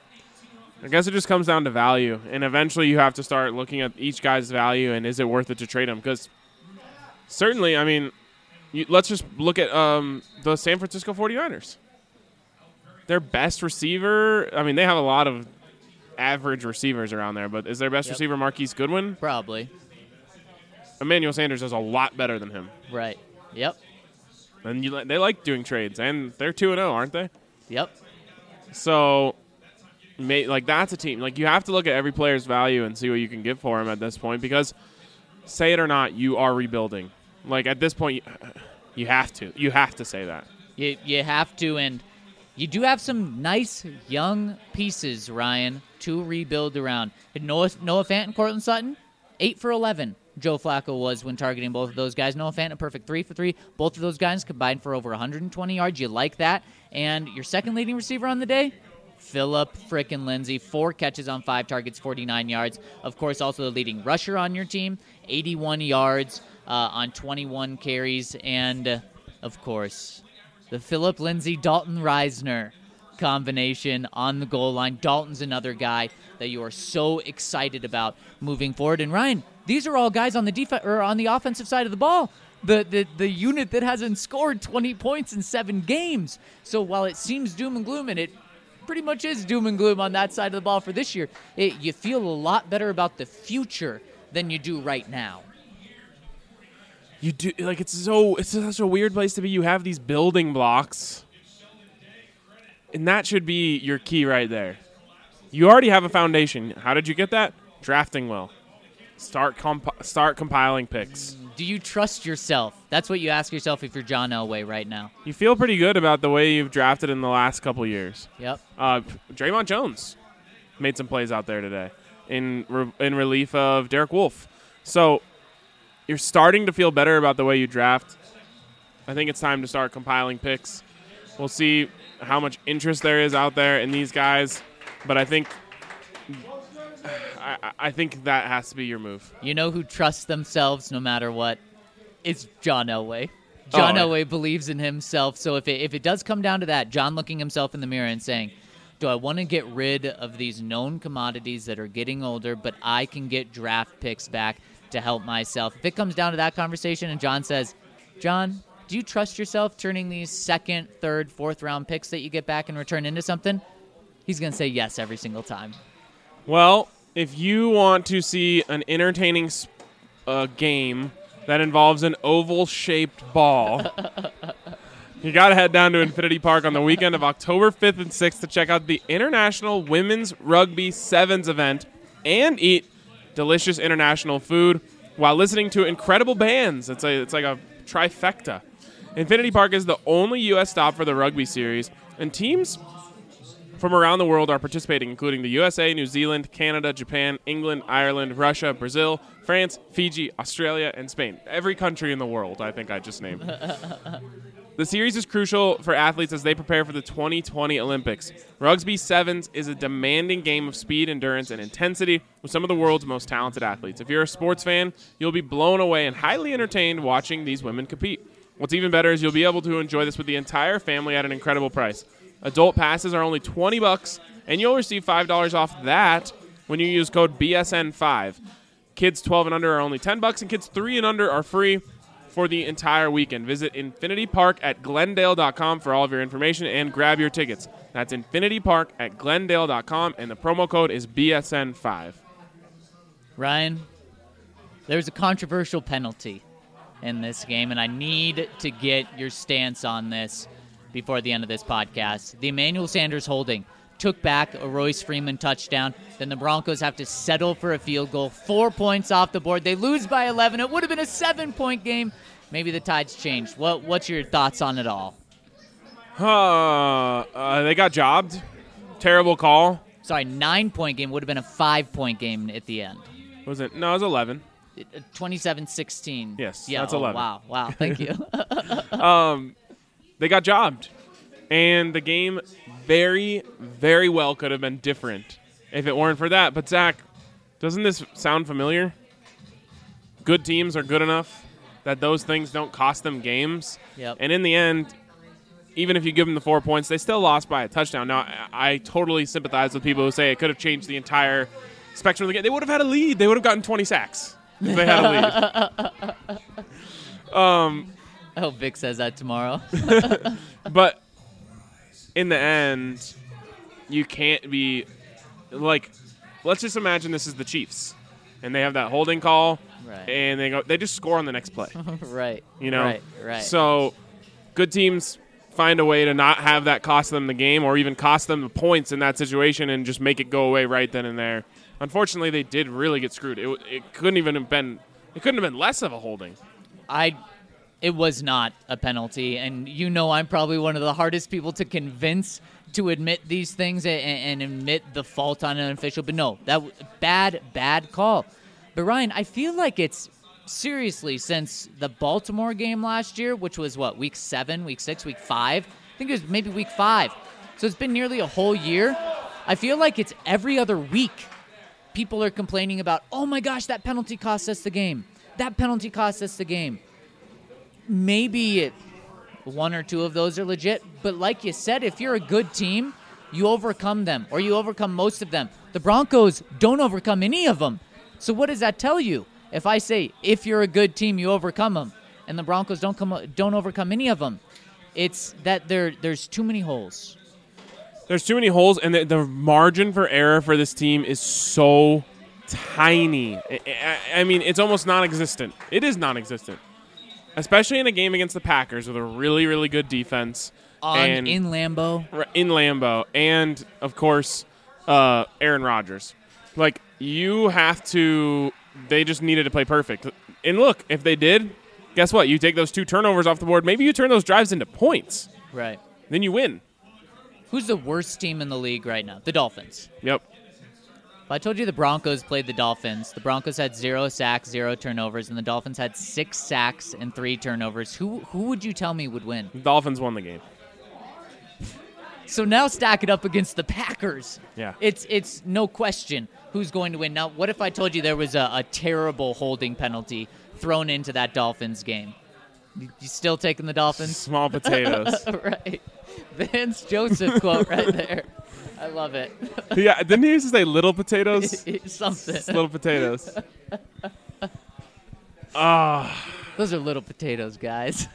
I guess it just comes down to value. And eventually you have to start looking at each guy's value and is it worth it to trade him? Because certainly, I mean, you, let's just look at um, the San Francisco 49ers. Their best receiver – I mean, they have a lot of – average receivers around there, but is their best Yep. receiver Marquise Goodwin? Probably. Emmanuel Sanders is a lot better than him. Right. Yep. And you, they like doing trades, and they're two and oh, aren't they? Yep. So, may, like, that's a team. Like, you have to look at every player's value and see what you can get for him at this point because, say it or not, you are rebuilding. Like, at this point, you, you have to. You have to say that. You, you have to, and you do have some nice young pieces, Ryan, to rebuild around. Noah, Noah Fant and Cortland Sutton, eight for eleven. Joe Flacco was when targeting both of those guys. Noah Fant, a perfect three for three. Both of those guys combined for over one hundred twenty yards. You like that. And your second leading receiver on the day, Phillip frickin' Lindsay. Four catches on five targets, forty-nine yards. Of course, also the leading rusher on your team, eighty-one yards uh, on twenty-one carries. And, uh, of course, the Phillip Lindsay, Dalton Reisner combination on the goal line. Dalton's another guy that you are so excited about moving forward. And Ryan, these are all guys on the def- or on the offensive side of the ball. The, the the unit that hasn't scored twenty points in seven games. So while it seems doom and gloom, and it pretty much is doom and gloom on that side of the ball for this year, it, you feel a lot better about the future than you do right now. You do like it's so it's such a weird place to be. You have these building blocks, and that should be your key right there. You already have a foundation. How did you get that? Drafting well. Start comp- start compiling picks. Do you trust yourself? That's what you ask yourself if you're John Elway right now. You feel pretty good about the way you've drafted in the last couple years. Yep. Uh, Draymond Jones made some plays out there today in re- in relief of Derek Wolfe. So you're starting to feel better about the way you draft. I think it's time to start compiling picks. We'll see how much interest there is out there in these guys, but I think I, I think that has to be your move. You know who trusts themselves no matter what? It's John Elway. John Oh, Elway believes in himself. So if it, if it does come down to that, John looking himself in the mirror and saying, do I want to get rid of these known commodities that are getting older, but I can get draft picks back to help myself? If it comes down to that conversation and John says, John, do you trust yourself turning these second, third, fourth round picks that you get back in return into something? He's going to say yes every single time. Well, if you want to see an entertaining uh, game that involves an oval-shaped ball, you got to head down to Infinity Park on the weekend of October fifth and sixth to check out the International Women's Rugby Sevens event and eat delicious international food while listening to incredible bands. It's a it's like a trifecta. Infinity Park is the only U S stop for the rugby series, and teams from around the world are participating, including the U S A, New Zealand, Canada, Japan, England, Ireland, Russia, Brazil, France, Fiji, Australia, and Spain. Every country in the world, I think I just named. The series is crucial for athletes as they prepare for the twenty twenty Olympics. Rugby Sevens is a demanding game of speed, endurance, and intensity with some of the world's most talented athletes. If you're a sports fan, you'll be blown away and highly entertained watching these women compete. What's even better is you'll be able to enjoy this with the entire family at an incredible price. Adult passes are only twenty bucks, and you'll receive five dollars off that when you use code B S N five. Kids twelve and under are only ten bucks, and kids three and under are free for the entire weekend. Visit Infinity Park at Glendale dot com for all of your information and grab your tickets. That's Infinity Park at Glendale dot com, and the promo code is B S N five. Ryan, There's a controversial penalty in this game, and I need to get your stance on this before the end of this podcast. The Emmanuel Sanders holding took back a Royce Freeman touchdown. Then the Broncos have to settle for a field goal. Four points off the board. They lose by eleven. It would have been a seven-point game. Maybe the tide's changed. What, what's your thoughts on it all? Uh, uh, they got jobbed. Terrible call. Sorry, nine-point game would have been a five-point game at the end. Was it? No, it was eleven. twenty-seven sixteen. Yes, yeah, that's oh, eleven. Wow, wow, thank you. um, they got jobbed. And the game very, very well could have been different if it weren't for that. But, Zach, doesn't this sound familiar? Good teams are good enough that those things don't cost them games. Yep. And in the end, even if you give them the four points, they still lost by a touchdown. Now, I, I totally sympathize with people who say it could have changed the entire spectrum of the game. They would have had a lead. They would have gotten twenty sacks if they had a lead. um, I hope Vic says that tomorrow. But in the end, you can't be like, let's just imagine this is the Chiefs, and they have that holding call, right. and they go, they just score on the next play. Right. You know, right, right. So good teams find a way to not have that cost them the game, or even cost them the points in that situation, and just make it go away right then and there. Unfortunately, they did really get screwed. It, it couldn't even have been. It couldn't have been less of a holding. I. It was not a penalty, and you know I'm probably one of the hardest people to convince to admit these things and, and admit the fault on an official. But no, that w- bad, bad call. But Ryan, I feel like it's seriously since the Baltimore game last year, which was what, week seven, week six, week five. I think it was maybe week five. So it's been nearly a whole year. I feel like it's every other week. People are complaining about, oh my gosh, that penalty cost us the game. That penalty cost us the game. Maybe one or two of those are legit, but like you said, if you're a good team, you overcome them, or you overcome most of them. The Broncos don't overcome any of them. So what does that tell you? If I say, if you're a good team, you overcome them, and the Broncos don't come, don't overcome any of them, it's that there there's too many holes. There's too many holes, and the, the margin for error for this team is so tiny. I, I, I mean, it's almost non-existent. It is non-existent. Especially in a game against the Packers with a really, really good defense. On and in Lambeau. In Lambeau. And, of course, uh, Aaron Rodgers. Like, you have to – they just needed to play perfect. And, look, if they did, guess what? You take those two turnovers off the board. Maybe you turn those drives into points. Right. Then you win. Who's the worst team in the league right now? The Dolphins. Yep. If I told you the Broncos played the Dolphins, the Broncos had zero sacks, zero turnovers, and the Dolphins had six sacks and three turnovers, who who would you tell me would win? The Dolphins won the game. So now stack it up against the Packers. Yeah. It's it's no question who's going to win. Now, what if I told you there was a, a terrible holding penalty thrown into that Dolphins game? You still taking the Dolphins? Small potatoes. Right. Vance Joseph quote right there. I love it. Yeah, didn't he used to say little potatoes? Something. Little potatoes. Ah. oh. Those are little potatoes, guys.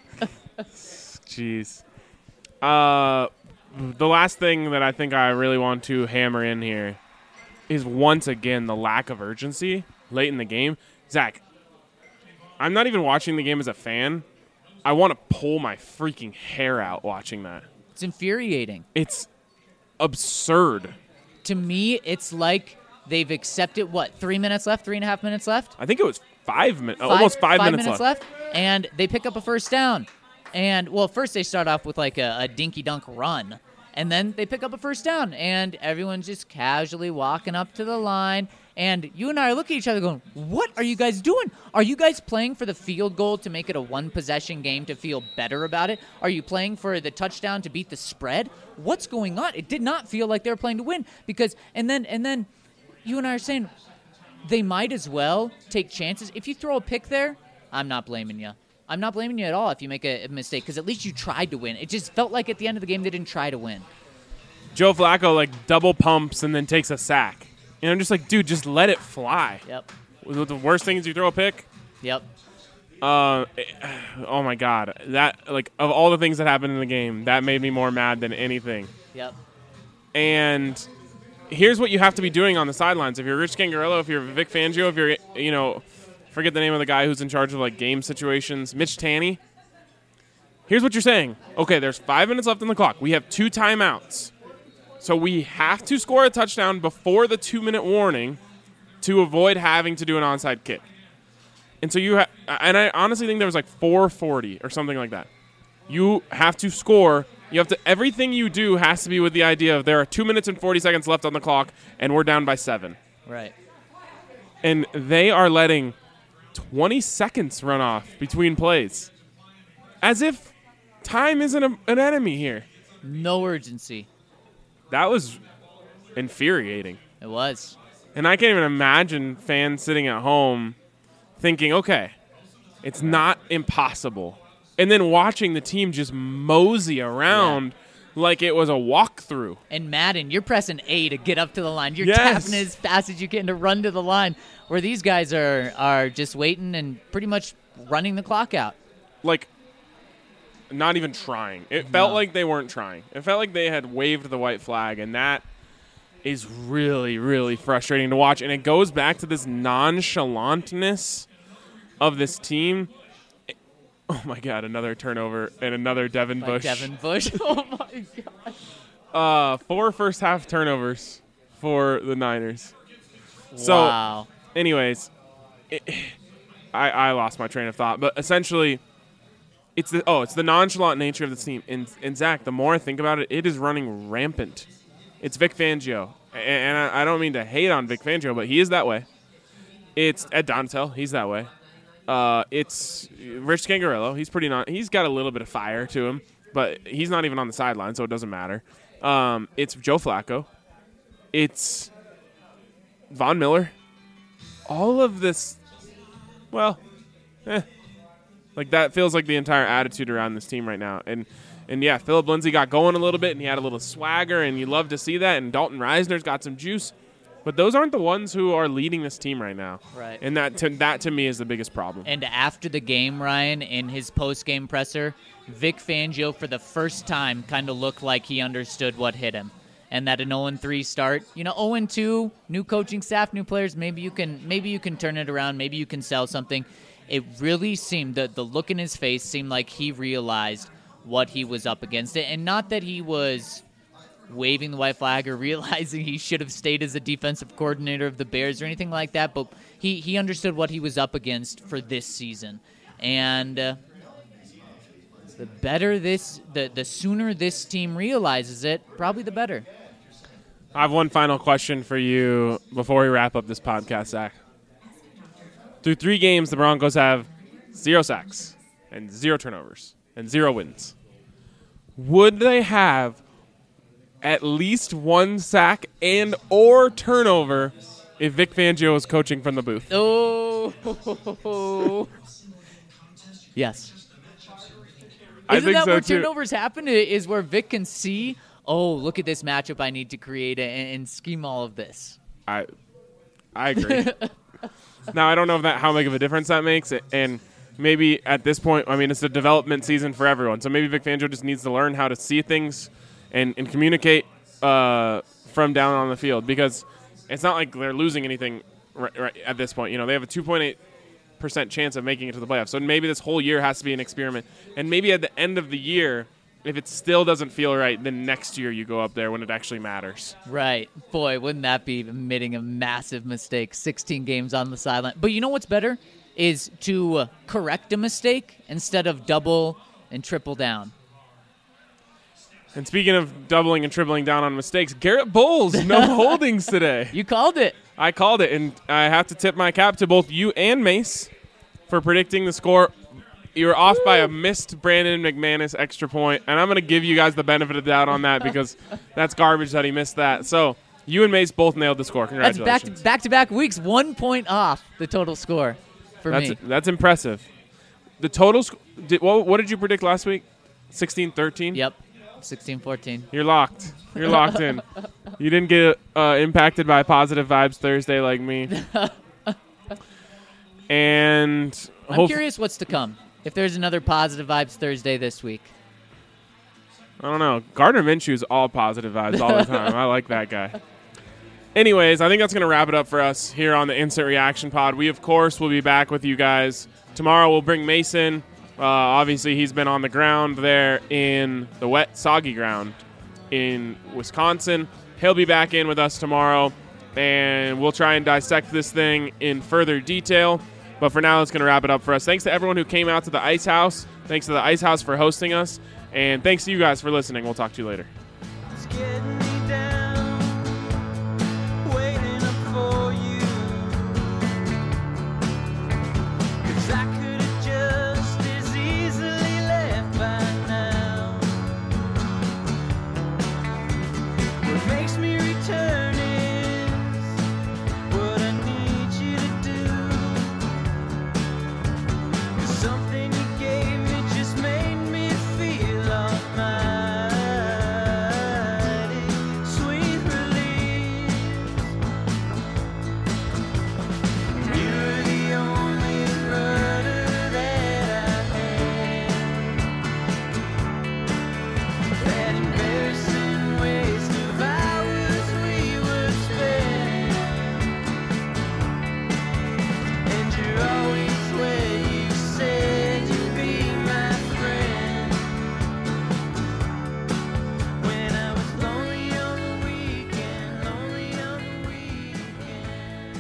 Jeez. Uh, the last thing that I think I really want to hammer in here is once again the lack of urgency late in the game. Zach, I'm not even watching the game as a fan. I want to pull my freaking hair out watching that. It's infuriating. It's absurd. To me, it's like they've accepted, what, three minutes left, three and a half minutes left? I think it was five minutes, almost five, five minutes, minutes left. left. And they pick up a first down. And, well, first they start off with like a, a dinky-dunk run. And then they pick up a first down. And everyone's just casually walking up to the line. And you and I are looking at each other going, what are you guys doing? Are you guys playing for the field goal to make it a one-possession game to feel better about it? Are you playing for the touchdown to beat the spread? What's going on? It did not feel like they were playing to win. Because, and then, and then you and I are saying they might as well take chances. If you throw a pick there, I'm not blaming you. I'm not blaming you at all if you make a, a mistake, because at least you tried to win. It just felt like at the end of the game they didn't try to win. Joe Flacco, like, double pumps and then takes a sack. And I'm just like, dude, just let it fly. Yep. The worst thing is you throw a pick. Yep. Uh, oh, my God. That, like, of all the things that happened in the game, that made me more mad than anything. Yep. And here's what you have to be doing on the sidelines. If you're Rich Gangarello, if you're Vic Fangio, if you're, you know, forget the name of the guy who's in charge of like game situations, Mitch Tanny. Here's what you're saying. Okay, there's five minutes left on the clock. We have two timeouts. So we have to score a touchdown before the two-minute warning to avoid having to do an onside kick. And so you ha- and I honestly think there was like four forty or something like that. You have to score. You have to everything you do has to be with the idea of there are two minutes and forty seconds left on the clock and we're down by seven. Right. And they are letting twenty seconds run off between plays. As if time isn't a, an enemy here. No urgency. That was infuriating. It was. And I can't even imagine fans sitting at home thinking, okay, it's not impossible. And then watching the team just mosey around yeah. like it was a walkthrough. And Madden, you're pressing A to get up to the line. You're yes. tapping as fast as you can to run to the line, where these guys are, are just waiting and pretty much running the clock out. Like, not even trying. It felt No. like they weren't trying. It felt like they had waved the white flag, and that is really, really frustrating to watch. And it goes back to this nonchalantness of this team. Oh, my God, another turnover and another Devin By Bush. Devin Bush. Oh, my gosh. Uh, four first-half turnovers for the Niners. So, Wow. anyways, it, I, I lost my train of thought. But essentially, it's the oh, it's the nonchalant nature of the team. And, and Zach, the more I think about it, it is running rampant. It's Vic Fangio. And, and I, I don't mean to hate on Vic Fangio, but he is that way. It's Ed Donatel. He's that way. Uh, it's Rich Scangarello. He's pretty not. He's got a little bit of fire to him, but he's not even on the sideline, so it doesn't matter. Um, it's Joe Flacco. It's Von Miller. All of this, well, eh, like that feels like the entire attitude around this team right now. And and yeah, Philip Lindsay got going a little bit, and he had a little swagger, and you love to see that. And Dalton Reisner's got some juice. But those aren't the ones who are leading this team right now. Right. And that to, that to me is the biggest problem. And after the game, Ryan, in his post-game presser, Vic Fangio, for the first time, kind of looked like he understood what hit him. And that an oh and three start, you know, oh and two, new coaching staff, new players, maybe you can maybe you can turn it around, maybe you can sell something. It really seemed, the, the look in his face seemed like he realized what he was up against. It, and not that he was waving the white flag or realizing he should have stayed as a defensive coordinator of the Bears or anything like that, but he, he understood what he was up against for this season. And uh, the better this, the, the sooner this team realizes it, probably the better. I have one final question for you before we wrap up this podcast, Zach. Through three games, the Broncos have zero sacks and zero turnovers and zero wins. Would they have at least one sack and or turnover if Vic Fangio is coaching from the booth? Oh, yes. I Isn't think that so where too. turnovers happen? Is where Vic can see, oh, look at this matchup I need to create and, and scheme all of this. I, I agree. Now I don't know if that how big of a difference that makes, and maybe at this point, I mean, it's a development season for everyone. So maybe Vic Fangio just needs to learn how to see things and, and communicate uh, from down on the field, because it's not like they're losing anything right, right at this point. You know, they have a two point eight percent chance of making it to the playoffs. So maybe this whole year has to be an experiment. And maybe at the end of the year, if it still doesn't feel right, then next year you go up there when it actually matters. Right. Boy, wouldn't that be admitting a massive mistake? sixteen games on the sideline. But you know what's better? Is to uh, correct a mistake instead of double and triple down. And speaking of doubling and tripling down on mistakes, Garrett Bowles, no holdings today. You called it. I called it, and I have to tip my cap to both you and Mace for predicting the score. You were off by a missed Brandon McManus extra point, and I'm going to give you guys the benefit of the doubt on that because that's garbage that he missed that. So you and Mace both nailed the score. That's Congratulations. back to, back-to-back weeks, one point off the total score for that's, me. That's impressive. The total sc- did, what, what did you predict last week? sixteen thirteen? Yep, sixteen fourteen. You're locked. You're locked in. You didn't get uh, impacted by positive vibes Thursday like me. And I'm hope- curious what's to come. If there's another positive vibes Thursday this week. I don't know. Gardner Minshew's all positive vibes all the time. I like that guy. Anyways, I think that's going to wrap it up for us here on the Instant Reaction Pod. We, of course, will be back with you guys. Tomorrow we'll bring Mason. Uh, obviously, he's been on the ground there in the wet, soggy ground in Wisconsin. He'll be back in with us tomorrow, and we'll try and dissect this thing in further detail. But for now, it's going to wrap it up for us. Thanks to everyone who came out to the Ice House. Thanks to the Ice House for hosting us. And thanks to you guys for listening. We'll talk to you later. It's getting me down, waiting up for you. 'Cause I could have just as easily left by now. What makes me return is what I need you to do. 'Cause something you gave me just made me feel almighty. Sweet release. You're the only rudder that I had. That embarrassing waste of hours we were spent. And you're always where you said you'd be my friend. When I was lonely on the weekend, lonely on the weekend.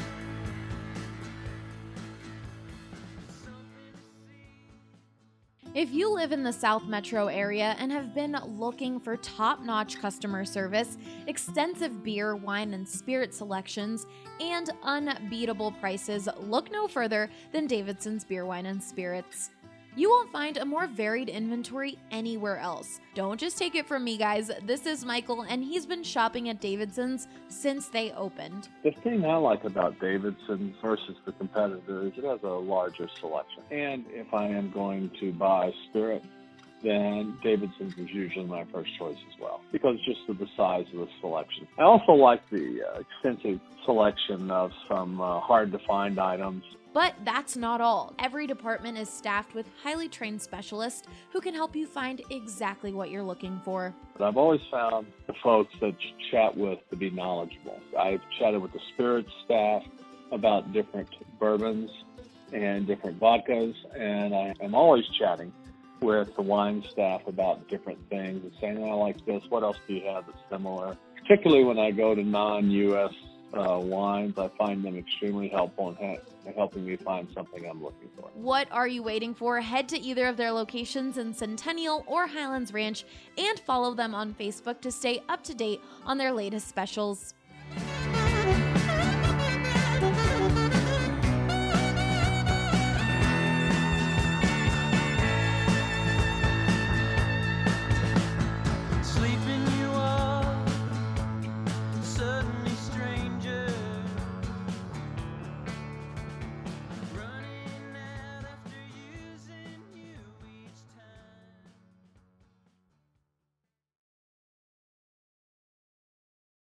If you live in the South Metro area and have been looking for top-notch customer service, extensive beer, wine, and spirit selections, and unbeatable prices, look no further than Davidson's Beer, Wine, and Spirits. You won't find a more varied inventory anywhere else. Don't just take it from me, guys. This is Michael, and he's been shopping at Davidson's since they opened. The thing I like about Davidson versus the competitor is it has a larger selection. And if I am going to buy spirit, then Davidson's is usually my first choice as well, because just of the size of the selection. I also like the uh, extensive selection of some uh, hard-to-find items. But that's not all. Every department is staffed with highly trained specialists who can help you find exactly what you're looking for. But I've always found the folks that you chat with to be knowledgeable. I've chatted with the spirits staff about different bourbons and different vodkas, and I am always chatting with the wine staff about different things and saying, oh, I like this, what else do you have that's similar? Particularly when I go to non-U S uh, wines, I find them extremely helpful in ha- helping me find something I'm looking for. What are you waiting for? Head to either of their locations in Centennial or Highlands Ranch and follow them on Facebook to stay up to date on their latest specials.